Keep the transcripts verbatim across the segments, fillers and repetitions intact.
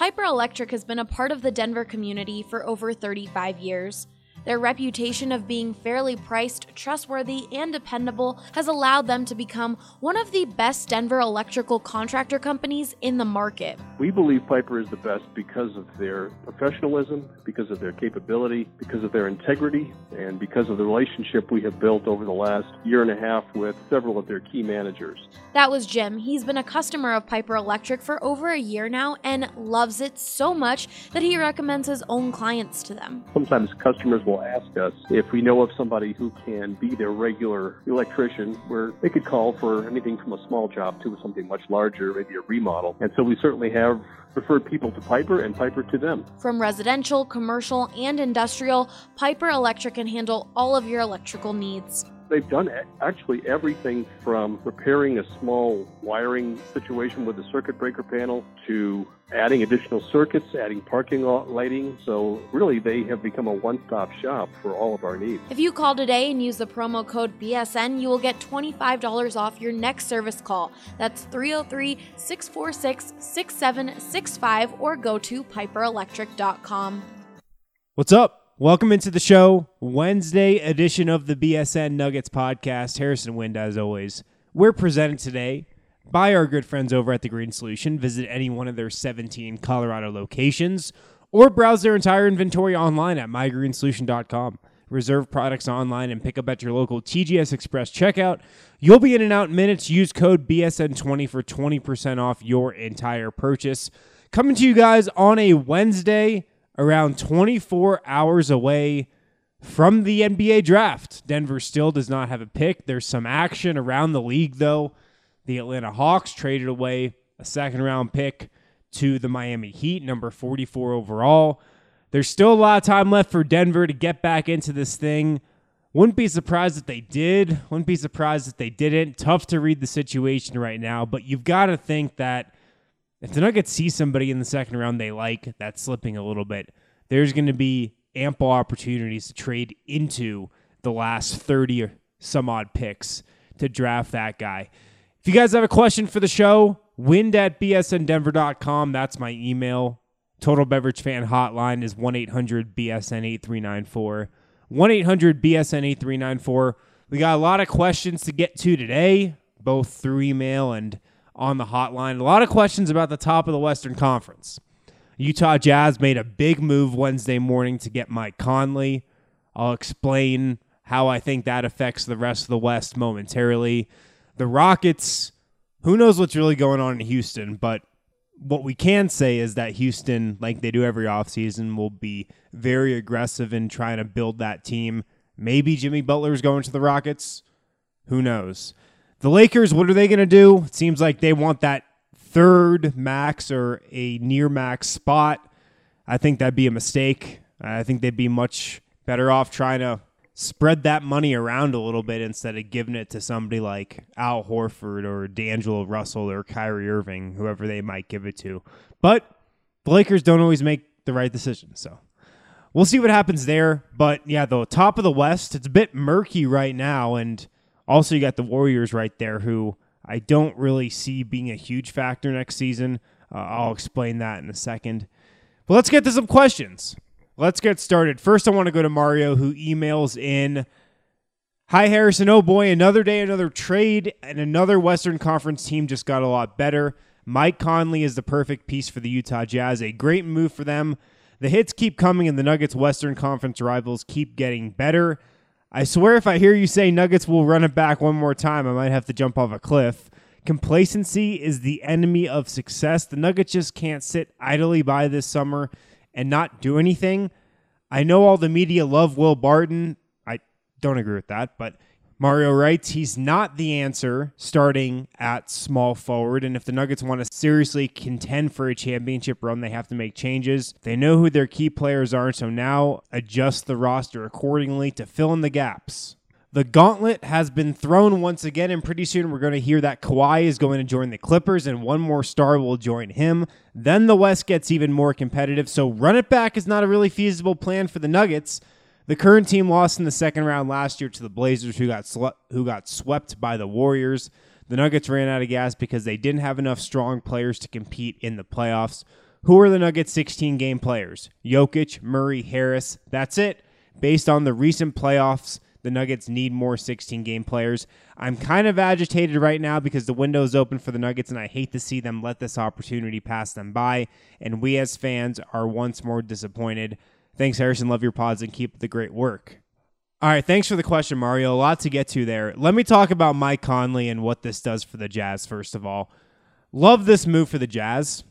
Piper Electric has been a part of the Denver community for over thirty-five years. Their reputation of being fairly priced, trustworthy, and dependable has allowed them to become one of the best Denver electrical contractor companies in the market. We believe Piper is the best because of their professionalism, because of their capability, because of their integrity, and because of the relationship we have built over the last year and a half with several of their key managers. That was Jim. He's been a customer of Piper Electric for over a year now and loves it so much that he recommends his own clients to them. Sometimes customers will ask us if we know of somebody who can be their regular electrician, where they could call for anything from a small job to something much larger, maybe a remodel. And so we certainly have referred people to Piper and Piper to them. From residential, commercial, and industrial, Piper Electric can handle all of your electrical needs. They've done actually everything from repairing a small wiring situation with a circuit breaker panel to adding additional circuits, adding parking lot lighting. So really, they have become a one-stop shop for all of our needs. If you call today and use the promo code B S N, you will get twenty-five dollars off your next service call. That's three oh three, six four six, six seven six five or go to piper electric dot com. What's up? Welcome into the show, Wednesday edition of the B S N Nuggets podcast. Harrison Wind, as always. We're presented today by our good friends over at The Green Solution. Visit any one of their seventeen Colorado locations or browse their entire inventory online at my green solution dot com. Reserve products online and pick up at your local T G S Express checkout. You'll be in and out in minutes. Use code B S N twenty for twenty percent off your entire purchase. Coming to you guys on a Wednesday, around twenty-four hours away from the N B A draft. Denver still does not have a pick. There's some action around the league, though. The Atlanta Hawks traded away a second-round pick to the Miami Heat, number forty-four overall. There's still a lot of time left for Denver to get back into this thing. Wouldn't be surprised if they did. Wouldn't be surprised if they didn't. Tough to read the situation right now, but you've got to think that if the Nuggets see somebody in the second round they like, that's slipping a little bit, there's going to be ample opportunities to trade into the last thirty or some odd picks to draft that guy. If you guys have a question for the show, wind at b s n denver dot com. That's my email. Total Beverage Fan Hotline is one eight hundred B S N eight three nine four. one eight hundred B S N eight three nine four. We got a lot of questions to get to today, both through email and on the hotline. A lot of questions about the top of the Western Conference. Utah Jazz made a big move Wednesday morning to get Mike Conley. I'll explain how I think that affects the rest of the West momentarily. The Rockets, who knows what's really going on in Houston, but what we can say is that Houston, like they do every offseason, will be very aggressive in trying to build that team. Maybe Jimmy Butler's going to the Rockets. Who knows? The Lakers, what are they going to do? It seems like they want that third max or a near max spot. I think that'd be a mistake. I think they'd be much better off trying to spread that money around a little bit instead of giving it to somebody like Al Horford or D'Angelo Russell or Kyrie Irving, whoever they might give it to. But the Lakers don't always make the right decision, so we'll see what happens there. But yeah, the top of the West, it's a bit murky right now, and also, you got the Warriors right there, who I don't really see being a huge factor next season. Uh, I'll explain that in a second. But let's get to some questions. Let's get started. First, I want to go to Mario, who emails in, "Hi, Harrison. Oh, boy, another day, another trade, and another Western Conference team just got a lot better. Mike Conley is the perfect piece for the Utah Jazz. A great move for them. The hits keep coming, and the Nuggets' Western Conference rivals keep getting better. I swear if I hear you say Nuggets will run it back one more time, I might have to jump off a cliff. Complacency is the enemy of success. The Nuggets just can't sit idly by this summer and not do anything. I know all the media love Will Barton. I don't agree with that, but Mario writes he's not the answer starting at small forward, and if the Nuggets want to seriously contend for a championship run, they have to make changes. They know who their key players are, so now adjust the roster accordingly to fill in the gaps. The gauntlet has been thrown once again, and pretty soon we're going to hear that Kawhi is going to join the Clippers, and one more star will join him. Then the West gets even more competitive, so run it back is not a really feasible plan for the Nuggets. The current team lost in the second round last year to the Blazers, who got sle- who got swept by the Warriors. The Nuggets ran out of gas because they didn't have enough strong players to compete in the playoffs. Who are the Nuggets' sixteen-game players? Jokic, Murray, Harris. That's it. Based on the recent playoffs, the Nuggets need more sixteen-game players. I'm kind of agitated right now because the window is open for the Nuggets, and I hate to see them let this opportunity pass them by, and we as fans are once more disappointed. Thanks, Harrison. Love your pods, and keep up the great work. All right, thanks for the question, Mario. A lot to get to there. Let me talk about Mike Conley and what this does for the Jazz, first of all. Love this move for the Jazz,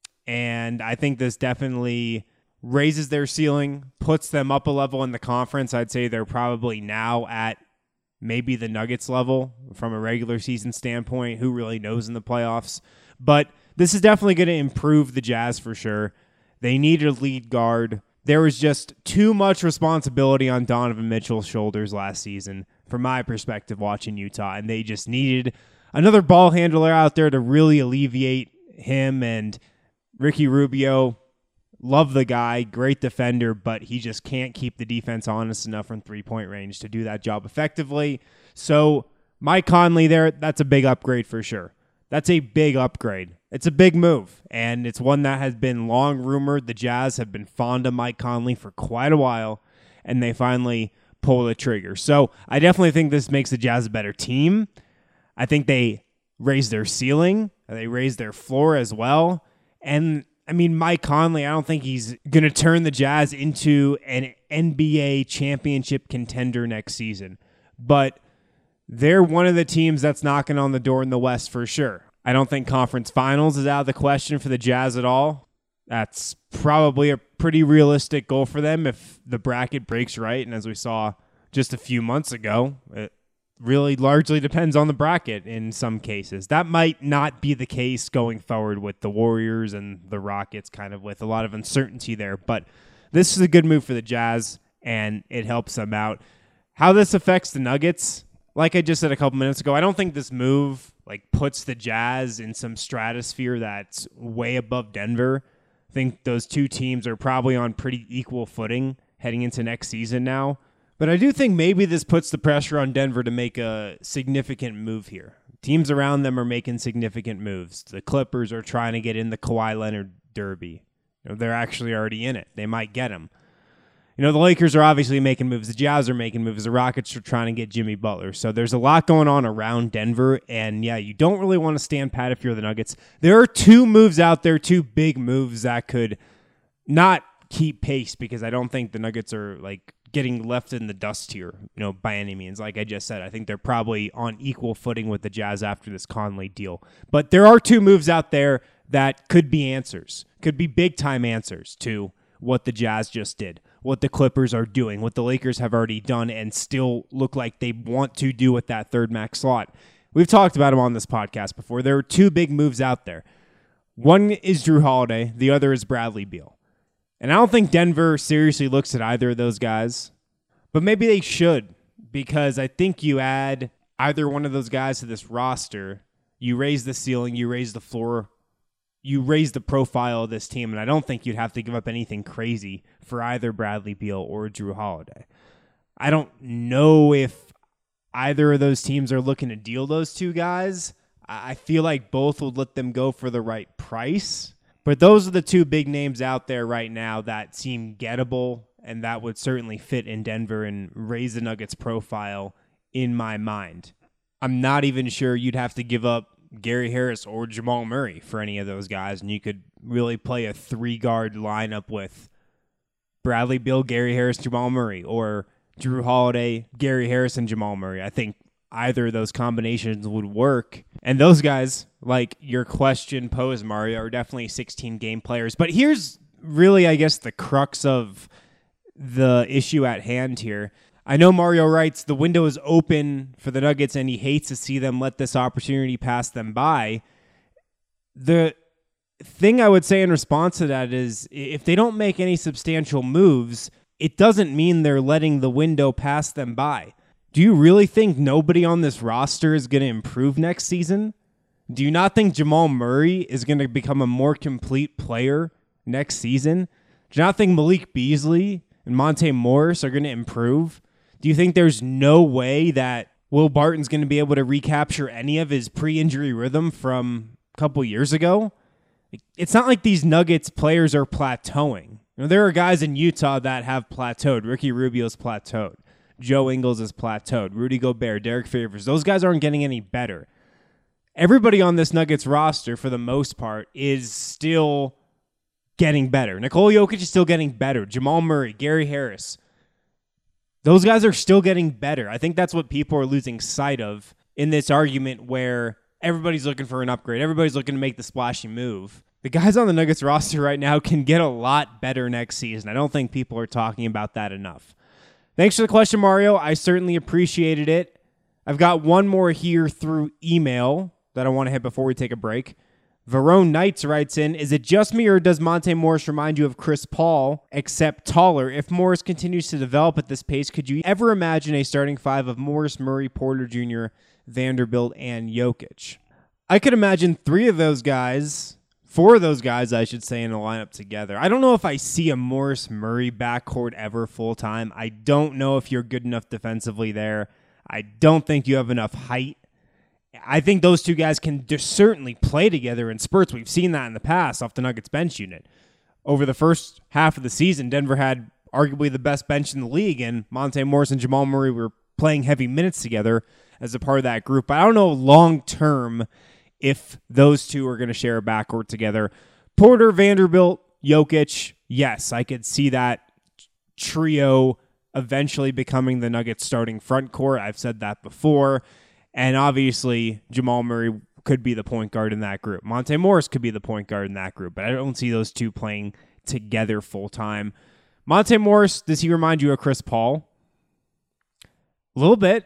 and I think this definitely raises their ceiling, puts them up a level in the conference. I'd say they're probably now at maybe the Nuggets level from a regular season standpoint. Who really knows in the playoffs? But this is definitely going to improve the Jazz for sure. They need a lead guard. There was just too much responsibility on Donovan Mitchell's shoulders last season, from my perspective, watching Utah, and they just needed another ball handler out there to really alleviate him. And Ricky Rubio, love the guy, great defender, but he just can't keep the defense honest enough from three-point range to do that job effectively. So Mike Conley there, that's a big upgrade for sure. That's a big upgrade. It's a big move, and it's one that has been long rumored. The Jazz have been fond of Mike Conley for quite a while, and they finally pull the trigger. So I definitely think this makes the Jazz a better team. I think they raise their ceiling. They raise their floor as well. And, I mean, Mike Conley, I don't think he's going to turn the Jazz into an N B A championship contender next season. But they're one of the teams that's knocking on the door in the West for sure. I don't think conference finals is out of the question for the Jazz at all. That's probably a pretty realistic goal for them if the bracket breaks right. And as we saw just a few months ago, it really largely depends on the bracket in some cases. That might not be the case going forward with the Warriors and the Rockets, kind of with a lot of uncertainty there. But this is a good move for the Jazz, and it helps them out. How this affects the Nuggets, like I just said a couple minutes ago, I don't think this move like puts the Jazz in some stratosphere that's way above Denver. I think those two teams are probably on pretty equal footing heading into next season now. But I do think maybe this puts the pressure on Denver to make a significant move here. Teams around them are making significant moves. The Clippers are trying to get in the Kawhi Leonard derby. You know, they're actually already in it. They might get him. You know, the Lakers are obviously making moves. The Jazz are making moves. The Rockets are trying to get Jimmy Butler. So there's a lot going on around Denver. And, yeah, you don't really want to stand pat if you're the Nuggets. There are two moves out there, two big moves that could not keep pace because I don't think the Nuggets are, like, getting left in the dust here, you know, by any means. Like I just said, I think they're probably on equal footing with the Jazz after this Conley deal. But there are two moves out there that could be answers, could be big-time answers to what the Jazz just did, what the Clippers are doing, what the Lakers have already done and still look like they want to do with that third max slot. We've talked about them on this podcast before. There are two big moves out there. One is Jrue Holiday. The other is Bradley Beal. And I don't think Denver seriously looks at either of those guys, but maybe they should, because I think you add either one of those guys to this roster, you raise the ceiling, you raise the floor, you raise the profile of this team, and I don't think you'd have to give up anything crazy for either Bradley Beal or Jrue Holiday. I don't know if either of those teams are looking to deal those two guys. I feel like both would let them go for the right price. But those are the two big names out there right now that seem gettable and that would certainly fit in Denver and raise the Nuggets' profile in my mind. I'm not even sure you'd have to give up Gary Harris or Jamal Murray for any of those guys, and you could really play a three-guard lineup with Bradley Beal, Gary Harris, Jamal Murray, or Jrue Holiday, Gary Harris, and Jamal Murray. I think either of those combinations would work. And those guys, like your question posed, Mario, are definitely sixteen-game players. But here's really, I guess, the crux of the issue at hand here. I know Mario writes, the window is open for the Nuggets, and he hates to see them let this opportunity pass them by. The thing I would say in response to that is, if they don't make any substantial moves, it doesn't mean they're letting the window pass them by. Do you really think nobody on this roster is going to improve next season? Do you not think Jamal Murray is going to become a more complete player next season? Do you not think Malik Beasley and Monte Morris are going to improve? Do you think there's no way that Will Barton's going to be able to recapture any of his pre-injury rhythm from a couple years ago? It's not like these Nuggets players are plateauing. You know, there are guys in Utah that have plateaued. Ricky Rubio's plateaued. Joe Ingles is plateaued. Rudy Gobert, Derek Favors. Those guys aren't getting any better. Everybody on this Nuggets roster, for the most part, is still getting better. Nikola Jokic is still getting better. Jamal Murray, Gary Harris. Those guys are still getting better. I think that's what people are losing sight of in this argument where everybody's looking for an upgrade. Everybody's looking to make the splashy move. The guys on the Nuggets roster right now can get a lot better next season. I don't think people are talking about that enough. Thanks for the question, Mario. I certainly appreciated it. I've got one more here through email that I want to hit before we take a break. Verone Knights writes in, is it just me or does Monte Morris remind you of Chris Paul, except taller? If Morris continues to develop at this pace, could you ever imagine a starting five of Morris, Murray, Porter Junior, Vanderbilt, and Jokic? I could imagine three of those guys, four of those guys, I should say, in a lineup together. I don't know if I see a Morris-Murray backcourt ever full-time. I don't know if you're good enough defensively there. I don't think you have enough height. I think those two guys can just certainly play together in spurts. We've seen that in the past off the Nuggets bench unit. Over the first half of the season, Denver had arguably the best bench in the league, and Monte Morris and Jamal Murray were playing heavy minutes together as a part of that group. But I don't know long-term if those two are going to share a backcourt together. Porter, Vanderbilt, Jokic, yes, I could see that trio eventually becoming the Nuggets starting front court. I've said that before. And obviously, Jamal Murray could be the point guard in that group. Monte Morris could be the point guard in that group, but I don't see those two playing together full-time. Monte Morris, does he remind you of Chris Paul? A little bit.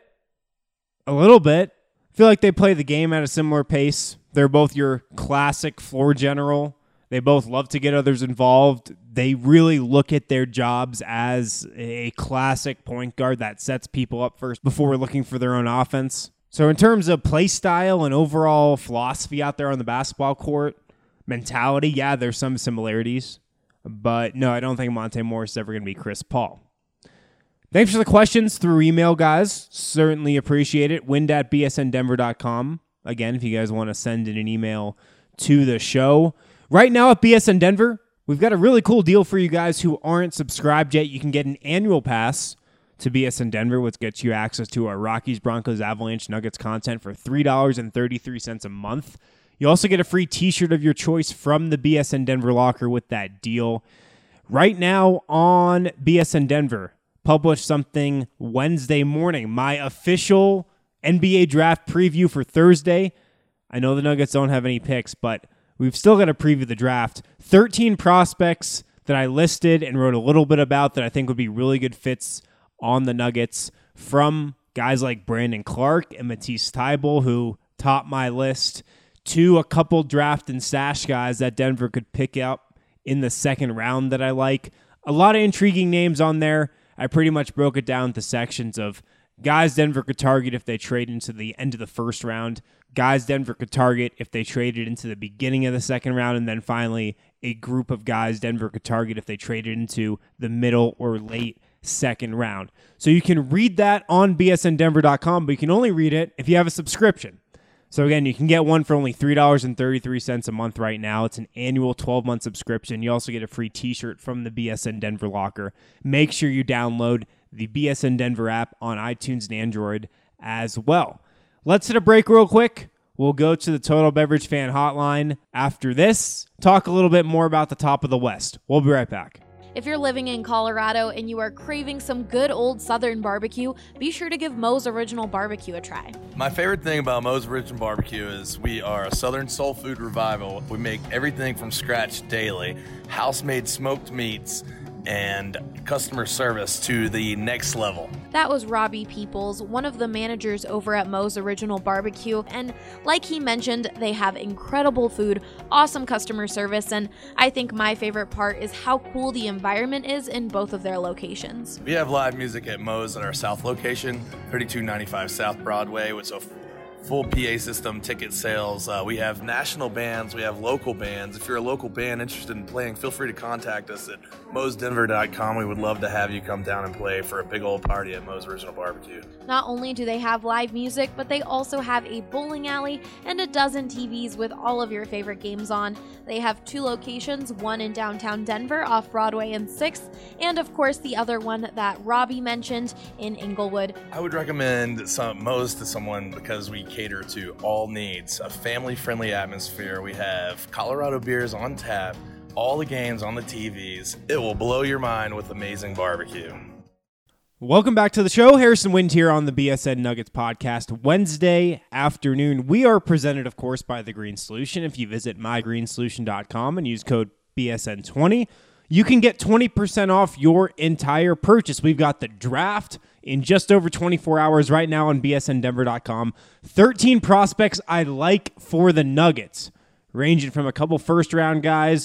A little bit. I feel like they play the game at a similar pace. They're both your classic floor general. They both love to get others involved. They really look at their jobs as a classic point guard that sets people up first before looking for their own offense. So in terms of play style and overall philosophy out there on the basketball court, mentality, yeah, there's some similarities. But no, I don't think Monte Morris is ever going to be Chris Paul. Thanks for the questions through email, guys. Certainly appreciate it. Wind at b s n denver dot com. Again, if you guys want to send in an email to the show. Right now at B S N Denver, we've got a really cool deal for you guys who aren't subscribed yet. You can get an annual pass to B S N Denver, which gets you access to our Rockies, Broncos, Avalanche, Nuggets content for three dollars and thirty-three cents a month. You also get a free t-shirt of your choice from the B S N Denver locker with that deal. Right now on B S N Denver, published something Wednesday morning, my official N B A draft preview for Thursday. I know the Nuggets don't have any picks, but we've still got to preview the draft. thirteen prospects that I listed and wrote a little bit about that I think would be really good fits on the Nuggets, from guys like Brandon Clark and Matisse Thybulle, who topped my list, to a couple draft and stash guys that Denver could pick up in the second round that I like. A lot of intriguing names on there. I pretty much broke it down to sections of guys Denver could target if they trade into the end of the first round, guys Denver could target if they traded into the beginning of the second round, and then finally a group of guys Denver could target if they traded into the middle or late second round. So you can read that on b s n denver dot com, but you can only read it if you have a subscription. So again, you can get one for only three dollars and thirty-three cents a month right now. It's an annual twelve-month subscription. You also get a free t-shirt from the B S N Denver locker. Make sure you download the B S N Denver app on iTunes and Android as well. Let's hit a break real quick. We'll go to the Total Beverage Fan Hotline after this. Talk a little bit more about the top of the West. We'll be right back. If you're living in Colorado and you are craving some good old Southern barbecue, be sure to give Moe's Original Barbecue a try. My favorite thing about Moe's Original Barbecue is we are a Southern soul food revival. We make everything from scratch daily, house-made smoked meats, and customer service to the next level. That was Robbie Peoples, one of the managers over at Moe's Original Barbecue, and like he mentioned, they have incredible food, awesome customer service, and I think my favorite part is how cool the environment is in both of their locations. We have live music at Moe's at our south location, thirty-two ninety-five South Broadway, which is a full P A system, ticket sales. Uh, we have national bands. We have local bands. If you're a local band interested in playing, feel free to contact us at Moe's Denver dot com. We would love to have you come down and play for a big old party at Moe's Original Barbecue. Not only do they have live music, but they also have a bowling alley and a dozen T Vs with all of your favorite games on. They have two locations, one in downtown Denver off Broadway and sixth, and of course the other one that Robbie mentioned in Inglewood. I would recommend some, Moe's to someone because we cater to all needs, a family-friendly atmosphere. We have Colorado beers on tap, all the games on the T Vs. It will blow your mind with amazing barbecue. Welcome back to the show. Harrison Wind here on the B S N Nuggets podcast. Wednesday afternoon. We are presented, of course, by The Green Solution. If you visit my green solution dot com and use code B S N twenty, you can get twenty percent off your entire purchase. We've got the draft in just over twenty-four hours right now on B S N Denver dot com. thirteen prospects I like for the Nuggets, ranging from a couple first-round guys,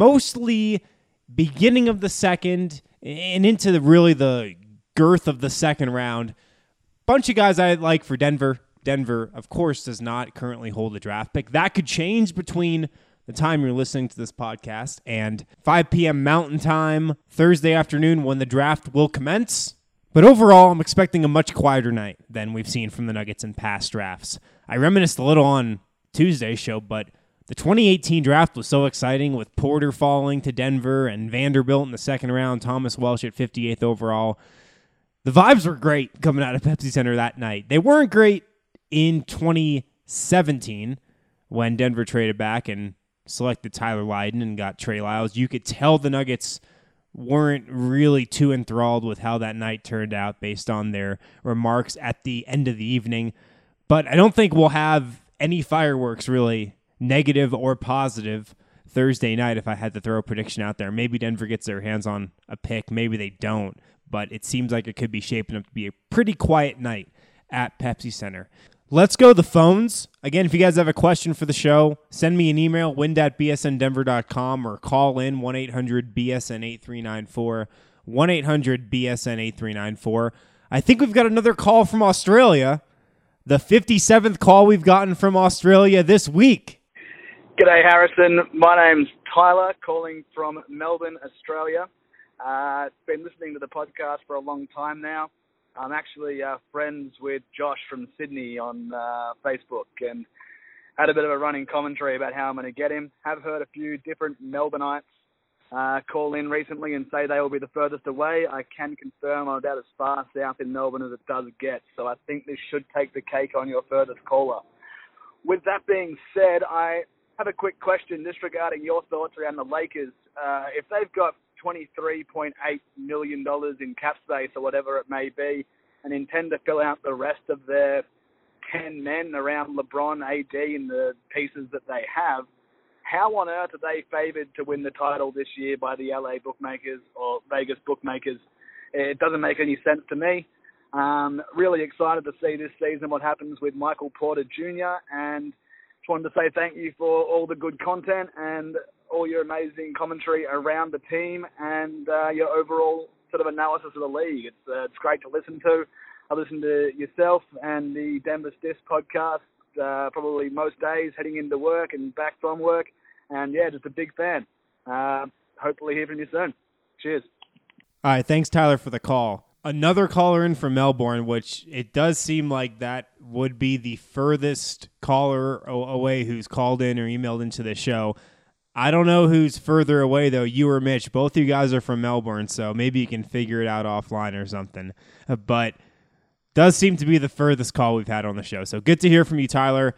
mostly beginning of the second and into the, really the girth of the second round. Bunch of guys I like for Denver. Denver, of course, does not currently hold a draft pick. That could change between the time you're listening to this podcast and five p.m. Mountain Time, Thursday afternoon, when the draft will commence. But overall, I'm expecting a much quieter night than we've seen from the Nuggets in past drafts. I reminisced a little on Tuesday's show, but the twenty eighteen draft was so exciting with Porter falling to Denver and Vanderbilt in the second round, Thomas Welsh at fifty-eighth overall. The vibes were great coming out of Pepsi Center that night. They weren't great in twenty seventeen when Denver traded back and selected Tyler Lydon and got Trey Lyles. You could tell the Nuggets weren't really too enthralled with how that night turned out based on their remarks at the end of the evening. But I don't think we'll have any fireworks really, negative or positive, Thursday night if I had to throw a prediction out there. Maybe Denver gets their hands on a pick. Maybe they don't. But it seems like it could be shaping up to be a pretty quiet night at Pepsi Center. Let's go to the phones. Again, if you guys have a question for the show, send me an email, wind at B S N Denver dot com, or call in one eight hundred B S N eight three nine four, one eight hundred B S N eight three nine four. I think we've got another call from Australia, the fifty-seventh call we've gotten from Australia this week. G'day, Harrison. My name's Tyler, calling from Melbourne, Australia. Uh, been listening to the podcast for a long time now. I'm actually uh, friends with Josh from Sydney on uh, Facebook and had a bit of a running commentary about how I'm going to get him. Have heard a few different Melbourneites uh, call in recently and say they will be the furthest away. I can confirm I'm about as far south in Melbourne as it does get, so I think this should take the cake on your furthest caller. With that being said, I have a quick question just regarding your thoughts around the Lakers. Uh, if they've got twenty-three point eight million dollars in cap space or whatever it may be and intend to fill out the rest of their ten men around LeBron, A D and the pieces that they have, how on earth are they favoured to win the title this year by the L A bookmakers or Vegas bookmakers? It doesn't make any sense to me. Um, really excited to see this season what happens with Michael Porter Junior and just wanted to say thank you for all the good content and all your amazing commentary around the team and uh, your overall sort of analysis of the league. It's uh, it's great to listen to. I listen to yourself and the Denver Stiffs podcast uh, probably most days heading into work and back from work. And, yeah, just a big fan. Uh, hopefully hear from you soon. Cheers. All right, thanks, Tyler, for the call. Another caller in from Melbourne, which it does seem like that would be the furthest caller away who's called in or emailed into the show. I don't know who's further away, though, you or Mitch. Both of you guys are from Melbourne, so maybe you can figure it out offline or something. But does seem to be the furthest call we've had on the show. So good to hear from you, Tyler.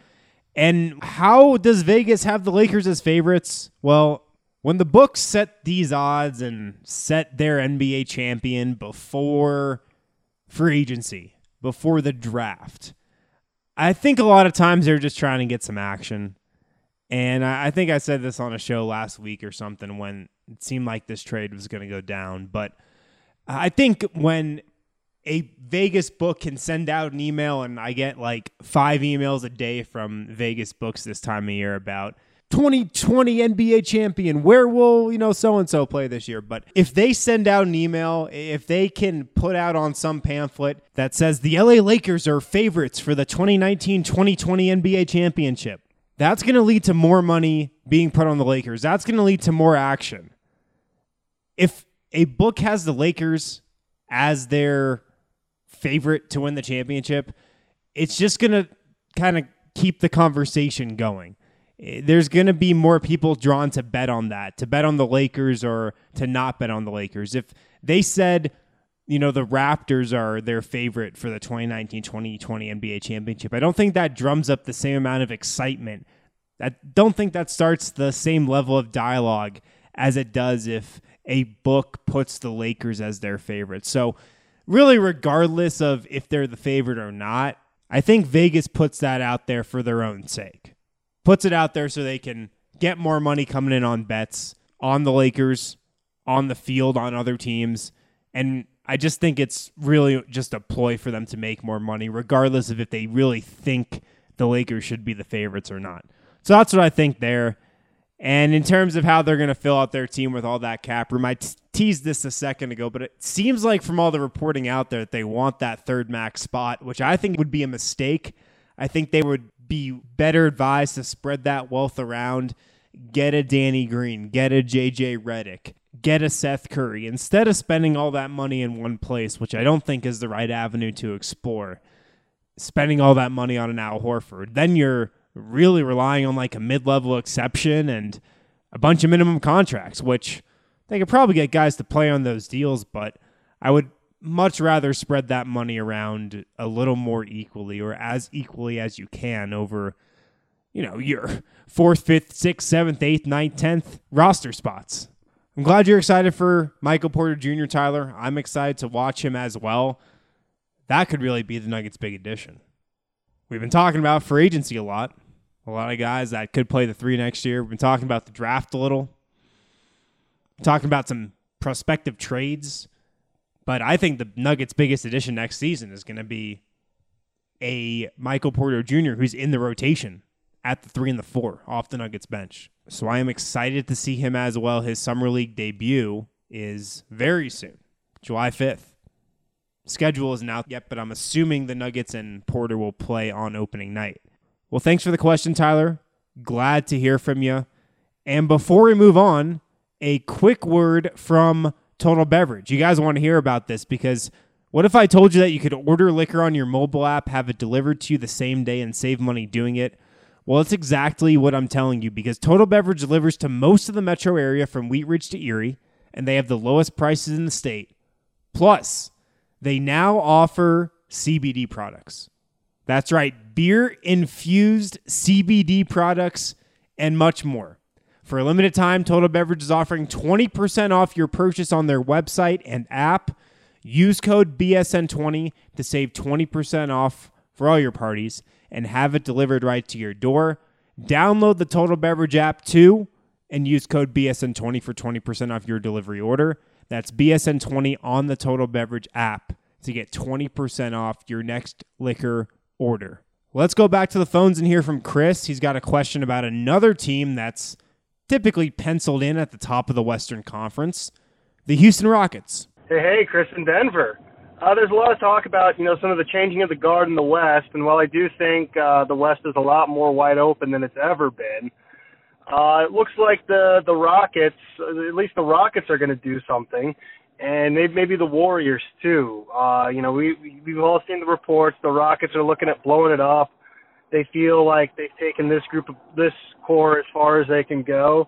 And how does Vegas have the Lakers as favorites? Well, when the books set these odds and set their N B A champion before free agency, before the draft, I think a lot of times they're just trying to get some action. And I think I said this on a show last week or something when it seemed like this trade was going to go down. But I think when a Vegas book can send out an email, and I get like five emails a day from Vegas books this time of year about twenty twenty N B A champion. Where will, you know, so-and-so play this year? But if they send out an email, if they can put out on some pamphlet that says the L A Lakers are favorites for the twenty nineteen twenty twenty N B A championship, that's going to lead to more money being put on the Lakers. That's going to lead to more action. If a book has the Lakers as their favorite to win the championship, it's just going to kind of keep the conversation going. There's going to be more people drawn to bet on that, to bet on the Lakers or to not bet on the Lakers. If they said, you know, the Raptors are their favorite for the twenty nineteen twenty twenty N B A championship, I don't think that drums up the same amount of excitement. I don't think that starts the same level of dialogue as it does if a book puts the Lakers as their favorite. So really, regardless of if they're the favorite or not, I think Vegas puts that out there for their own sake. Puts it out there so they can get more money coming in on bets on the Lakers, on the field, on other teams. And I just think it's really just a ploy for them to make more money, regardless of if they really think the Lakers should be the favorites or not. So that's what I think there. And in terms of how they're going to fill out their team with all that cap room, I t- teased this a second ago, but it seems like from all the reporting out there that they want that third max spot, which I think would be a mistake. I think they would be better advised to spread that wealth around, get a Danny Green, get a J J Redick, get a Seth Curry, instead of spending all that money in one place, which I don't think is the right avenue to explore, spending all that money on an Al Horford. Then you're really relying on like a mid-level exception and a bunch of minimum contracts, which they could probably get guys to play on those deals, but I would much rather spread that money around a little more equally, or as equally as you can over, you know, your fourth, fifth, sixth, seventh, eighth, ninth, tenth roster spots. I'm glad you're excited for Michael Porter Junior, Tyler. I'm excited to watch him as well. That could really be the Nuggets' big addition. We've been talking about free agency a lot. A lot of guys that could play the three next year. We've been talking about the draft a little. Talking about some prospective trades. But I think the Nuggets' biggest addition next season is going to be a Michael Porter Junior who's in the rotation at the three and the four off the Nuggets bench. So I am excited to see him as well. His Summer League debut is very soon, July fifth. Schedule isn't out yet, but I'm assuming the Nuggets and Porter will play on opening night. Well, thanks for the question, Tyler. Glad to hear from you. And before we move on, a quick word from Total Beverage. You guys want to hear about this because what if I told you that you could order liquor on your mobile app, have it delivered to you the same day, and save money doing it? Well, it's exactly what I'm telling you because Total Beverage delivers to most of the metro area from Wheat Ridge to Erie, and they have the lowest prices in the state. Plus, they now offer C B D products. That's right, beer-infused C B D products and much more. For a limited time, Total Beverage is offering twenty percent off your purchase on their website and app. Use code B S N twenty to save twenty percent off for all your parties and have it delivered right to your door. Download the Total Beverage app too and use code B S N twenty for twenty percent off your delivery order. That's B S N twenty on the Total Beverage app to get twenty percent off your next liquor order. Let's go back to the phones and hear from Chris. He's got a question about another team that's typically penciled in at the top of the Western Conference, the Houston Rockets. Hey, hey, Chris in Denver. Uh, there's a lot of talk about, you know, some of the changing of the guard in the West, and while I do think uh, the West is a lot more wide open than it's ever been, uh, it looks like the, the Rockets, at least the Rockets are going to do something, and maybe, maybe the Warriors too. Uh, you know, we, we've all seen the reports. The Rockets are looking at blowing it up. They feel like they've taken this group of this core as far as they can go.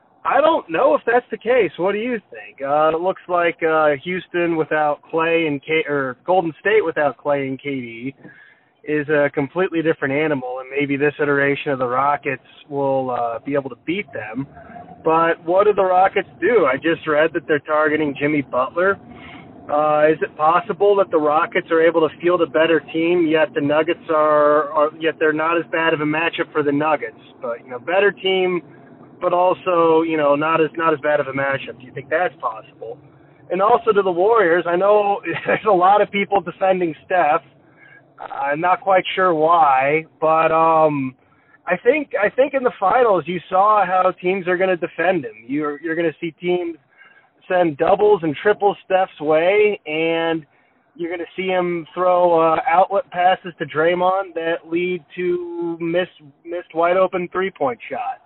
I don't know if that's the case. What do you think? Uh, it looks like uh, Houston without Clay and K, or Golden State without Clay and K D is a completely different animal, and maybe this iteration of the Rockets will uh, be able to beat them. But what do the Rockets do? I just read that they're targeting Jimmy Butler. Uh, is it possible that the Rockets are able to field a better team, yet the Nuggets are, are, yet they're not as bad of a matchup for the Nuggets? But, you know, better team, but also, you know, not as not as bad of a matchup. Do you think that's possible? And also to the Warriors, I know there's a lot of people defending Steph. I'm not quite sure why, but um, I think I think in the finals you saw how teams are going to defend him. You're you're going to see teams send doubles and triples Steph's way, and you're going to see him throw uh, outlet passes to Draymond that lead to miss, missed wide open three point shots.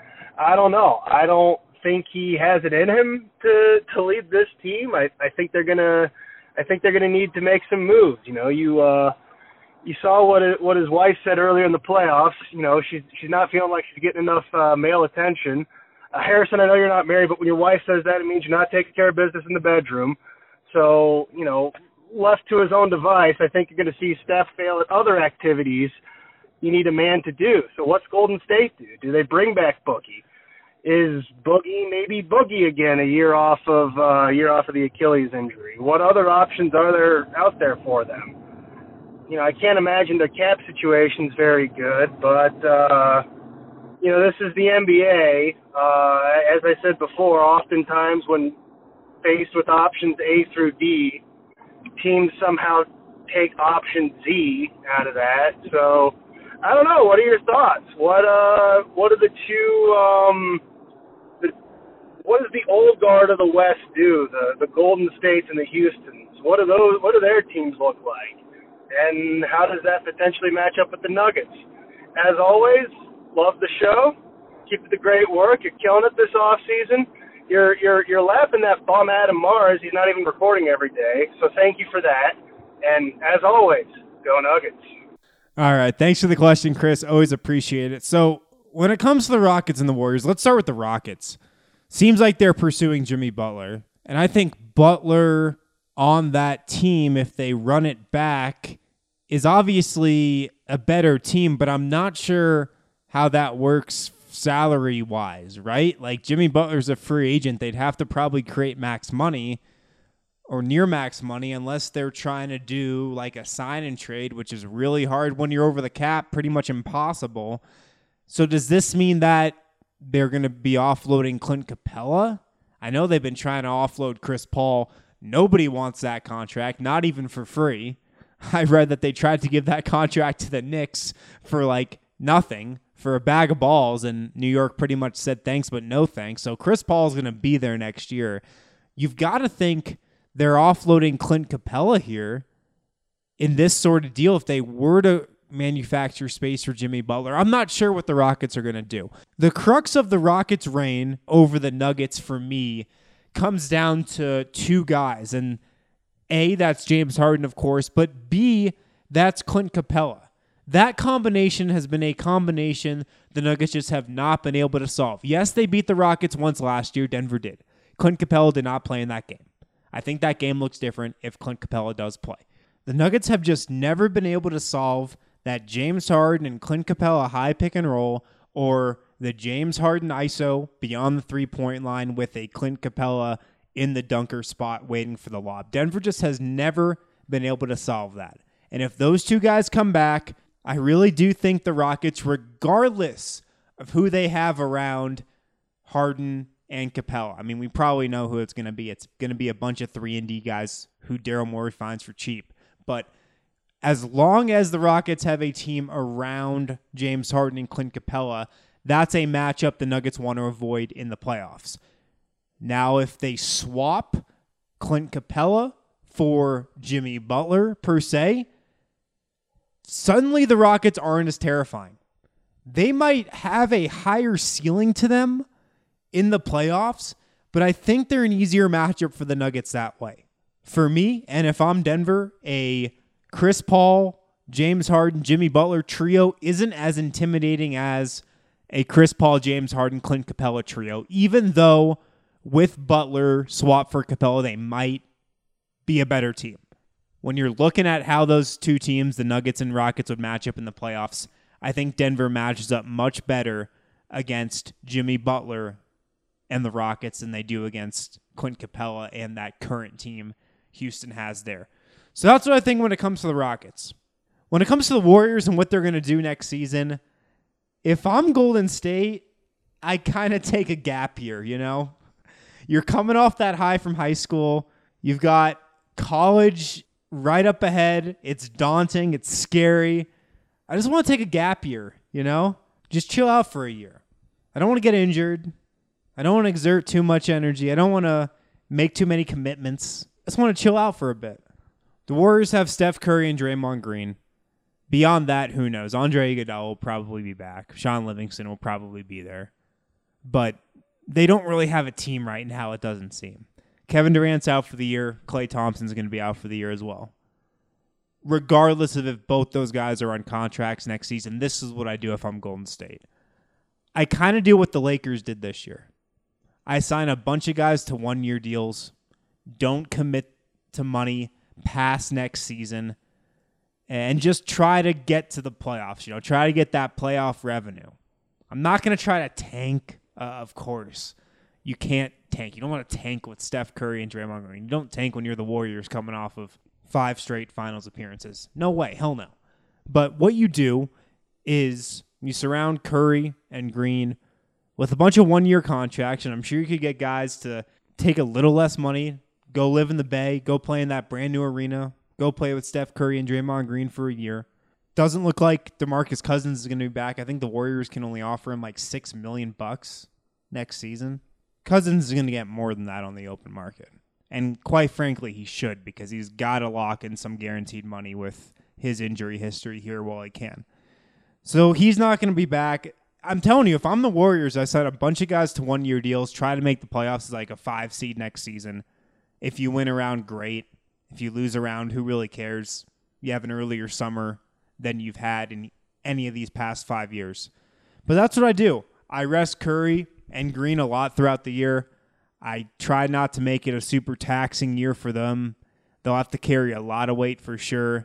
I don't know. I don't think he has it in him to to lead this team. I, I think they're gonna I think they're gonna need to make some moves. You know, you uh, you saw what it, what his wife said earlier in the playoffs. You know, she's she's not feeling like she's getting enough uh, male attention. Uh, Harrison, I know you're not married, but when your wife says that, it means you're not taking care of business in the bedroom. So, you know, left to his own device, I think you're going to see Steph fail at other activities you need a man to do. So what's Golden State do? Do they bring back Boogie? Is Boogie maybe Boogie again a year off of uh, a year off of the Achilles injury? What other options are there out there for them? You know, I can't imagine their cap situation's very good, but uh, you know, this is the N B A. Uh, as I said before, oftentimes when faced with options A through D, teams somehow take option Z out of that. So I don't know. What are your thoughts? What uh, what are the two? Um, the, what does the old guard of the West do? The the Golden States and the Houstons. What do those? What do their teams look like? And how does that potentially match up with the Nuggets? As always, love the show. Keep up the great work. You're killing it this off season. You're you're you're laughing that bum Adam Mars. He's not even recording every day. So thank you for that. And as always, go Nuggets. All right. Thanks for the question, Chris. Always appreciate it. So when it comes to the Rockets and the Warriors, let's start with the Rockets. Seems like they're pursuing Jimmy Butler. And I think Butler on that team, if they run it back, is obviously a better team, but I'm not sure how that works salary-wise, right? Like, Jimmy Butler's a free agent. They'd have to probably create max money or near max money unless they're trying to do like a sign and trade, which is really hard when you're over the cap, pretty much impossible. So does this mean that they're going to be offloading Clint Capella? I know they've been trying to offload Chris Paul. Nobody wants that contract, not even for free. I read that they tried to give that contract to the Knicks for like nothing, for a bag of balls, and New York pretty much said thanks but no thanks. So Chris Paul is going to be there next year. You've got to think they're offloading Clint Capella here in this sort of deal if they were to manufacture space for Jimmy Butler. I'm not sure what the Rockets are going to do. The crux of the Rockets' reign over the Nuggets for me comes down to two guys, and A, that's James Harden, of course, but B, that's Clint Capella. That combination has been a combination the Nuggets just have not been able to solve. Yes, they beat the Rockets once last year. Denver did. Clint Capella did not play in that game. I think that game looks different if Clint Capella does play. The Nuggets have just never been able to solve that James Harden and Clint Capella high pick and roll, or the James Harden I S O beyond the three-point line with a Clint Capella in the dunker spot waiting for the lob. Denver just has never been able to solve that. And if those two guys come back, I really do think the Rockets, regardless of who they have around Harden and Capella, I mean, we probably know who it's going to be. It's going to be a bunch of three and D guys who Daryl Morey finds for cheap. But as long as the Rockets have a team around James Harden and Clint Capella, that's a matchup the Nuggets want to avoid in the playoffs. Now, if they swap Clint Capella for Jimmy Butler, per se, suddenly the Rockets aren't as terrifying. They might have a higher ceiling to them in the playoffs, but I think they're an easier matchup for the Nuggets that way. For me, and if I'm Denver, a Chris Paul, James Harden, Jimmy Butler trio isn't as intimidating as a Chris Paul, James Harden, Clint Capella trio, even though with Butler, swap for Capella, they might be a better team. When you're looking at how those two teams, the Nuggets and Rockets, would match up in the playoffs, I think Denver matches up much better against Jimmy Butler and the Rockets than they do against Clint Capella and that current team Houston has there. So that's what I think when it comes to the Rockets. When it comes to the Warriors and what they're going to do next season, if I'm Golden State, I kind of take a gap here, you know? You're coming off that high from high school. You've got college right up ahead. It's daunting. It's scary. I just want to take a gap year, you know? just chill out for a year. I don't want to get injured. I don't want to exert too much energy. I don't want to make too many commitments. I just want to chill out for a bit. The Warriors have Steph Curry and Draymond Green. Beyond that, who knows? Andre Iguodala will probably be back. Sean Livingston will probably be there. But they don't really have a team right now, it doesn't seem. Kevin Durant's out for the year. Klay Thompson's going to be out for the year as well. Regardless of if both those guys are on contracts next season, this is what I do if I'm Golden State. I kind of do what the Lakers did this year. I sign a bunch of guys to one-year deals, don't commit to money past next season, and just try to get to the playoffs. You know, try to get that playoff revenue. I'm not going to try to tank, uh, of course. You can't tank. You don't want to tank with Steph Curry and Draymond Green. You don't tank when you're the Warriors coming off of five straight finals appearances. No way. Hell no. But what you do is you surround Curry and Green with a bunch of one-year contracts, and I'm sure you could get guys to take a little less money, go live in the Bay, go play in that brand new arena, go play with Steph Curry and Draymond Green for a year. Doesn't look like DeMarcus Cousins is going to be back. I think the Warriors can only offer him like six million bucks next season. Cousins is going to get more than that on the open market. And quite frankly, he should, because he's got to lock in some guaranteed money with his injury history here while he can. So he's not going to be back. I'm telling you, if I'm the Warriors, I sign a bunch of guys to one-year deals, try to make the playoffs as like a five seed next season. If you win a round, great. If you lose a round, who really cares? You have an earlier summer than you've had in any of these past five years. But that's what I do. I rest Curry and Green a lot throughout the year. I try not to make it a super taxing year for them. They'll have to carry a lot of weight for sure.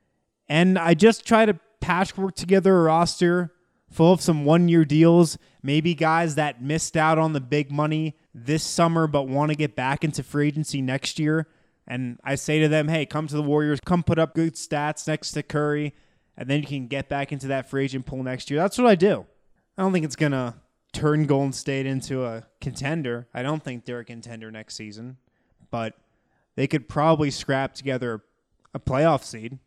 And I just try to patchwork together a roster full of some one-year deals, maybe guys that missed out on the big money this summer but want to get back into free agency next year. And I say to them, hey, come to the Warriors, come put up good stats next to Curry, and then you can get back into that free agent pool next year. That's what I do. I don't think it's going to turn Golden State into a contender. I don't think they're a contender next season, but they could probably scrap together a playoff seed.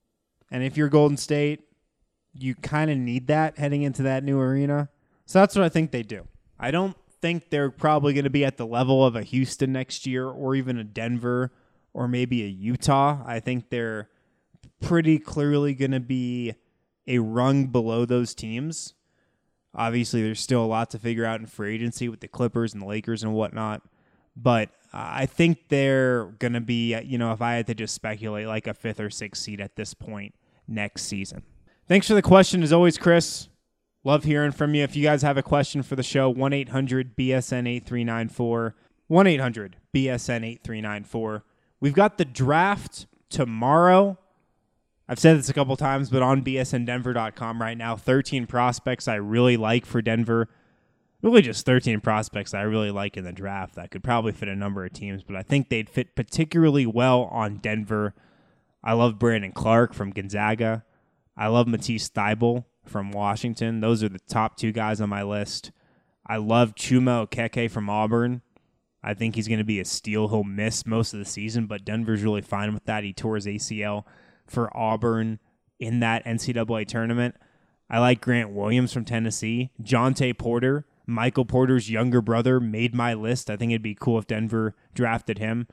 And if you're Golden State, you kind of need that heading into that new arena. So that's what I think they do. I don't think they're probably going to be at the level of a Houston next year or even a Denver or maybe a Utah. I think they're pretty clearly going to be a rung below those teams. Obviously, there's still a lot to figure out in free agency with the Clippers and the Lakers and whatnot. But I think they're going to be, you know, if I had to just speculate, like a fifth or sixth seed at this point next season. Thanks for the question, as always, Chris. Love hearing from you. If you guys have a question for the show, one eight hundred B S N eight three nine four. one eight hundred B S N eight three nine four. We've got the draft tomorrow. I've said this a couple times, but on B S N Denver dot com right now, thirteen prospects I really like for Denver. Really just thirteen prospects I really like in the draft that could probably fit a number of teams, but I think they'd fit particularly well on Denver. I love Brandon Clark from Gonzaga. I love Matisse Thybulle from Washington. Those are the top two guys on my list. I love Chuma Okeke from Auburn. I think he's going to be a steal. He'll miss most of the season, but Denver's really fine with that. He tore his A C L for Auburn in that N C double A tournament. I like Grant Williams from Tennessee. Jonte Porter, Michael Porter's younger brother, made my list. I think it'd be cool if Denver drafted him.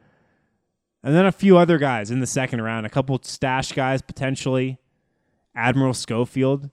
And then a few other guys in the second round. A couple stash guys potentially. Admiral Schofield,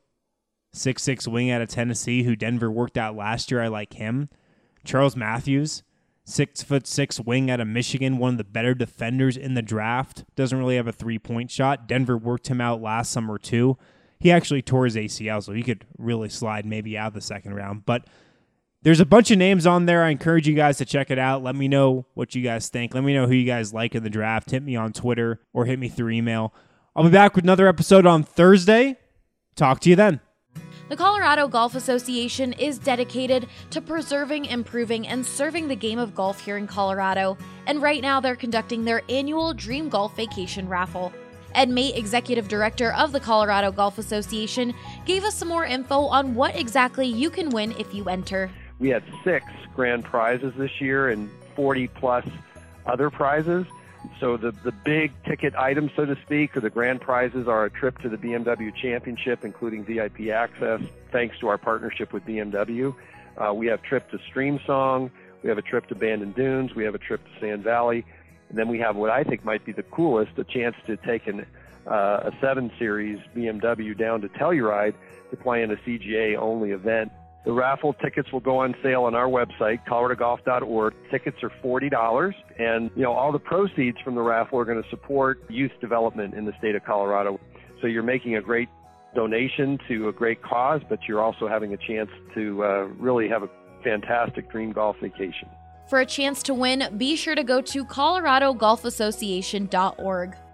six six wing out of Tennessee, who Denver worked out last year. I like him. Charles Matthews, six foot six wing out of Michigan, one of the better defenders in the draft. Doesn't really have a three-point shot. Denver worked him out last summer too. He actually tore his A C L, so he could really slide maybe out of the second round. But there's a bunch of names on there. I encourage you guys to check it out. Let me know what you guys think. Let me know who you guys like in the draft. Hit me on Twitter or hit me through email. I'll be back with another episode on Thursday. Talk to you then. The Colorado Golf Association is dedicated to preserving, improving, and serving the game of golf here in Colorado. And right now they're conducting their annual Dream Golf Vacation Raffle. Ed Mate, Executive Director of the Colorado Golf Association, gave us some more info on what exactly you can win if you enter. We had six grand prizes this year and forty plus other prizes. So the, the big ticket items, so to speak, or the grand prizes are a trip to the B M W Championship, including V I P access, thanks to our partnership with B M W. Uh, we have trip to Streamsong, we have a trip to Bandon Dunes, we have a trip to Sand Valley, and then we have what I think might be the coolest, a chance to take an, uh, a seven series B M W down to Telluride to play in a C G A-only event. The raffle tickets will go on sale on our website, colorado golf dot org. Tickets are forty dollars, and you know all the proceeds from the raffle are going to support youth development in the state of Colorado. So you're making a great donation to a great cause, but you're also having a chance to uh, really have a fantastic dream golf vacation. For a chance to win, be sure to go to colorado golf association dot org.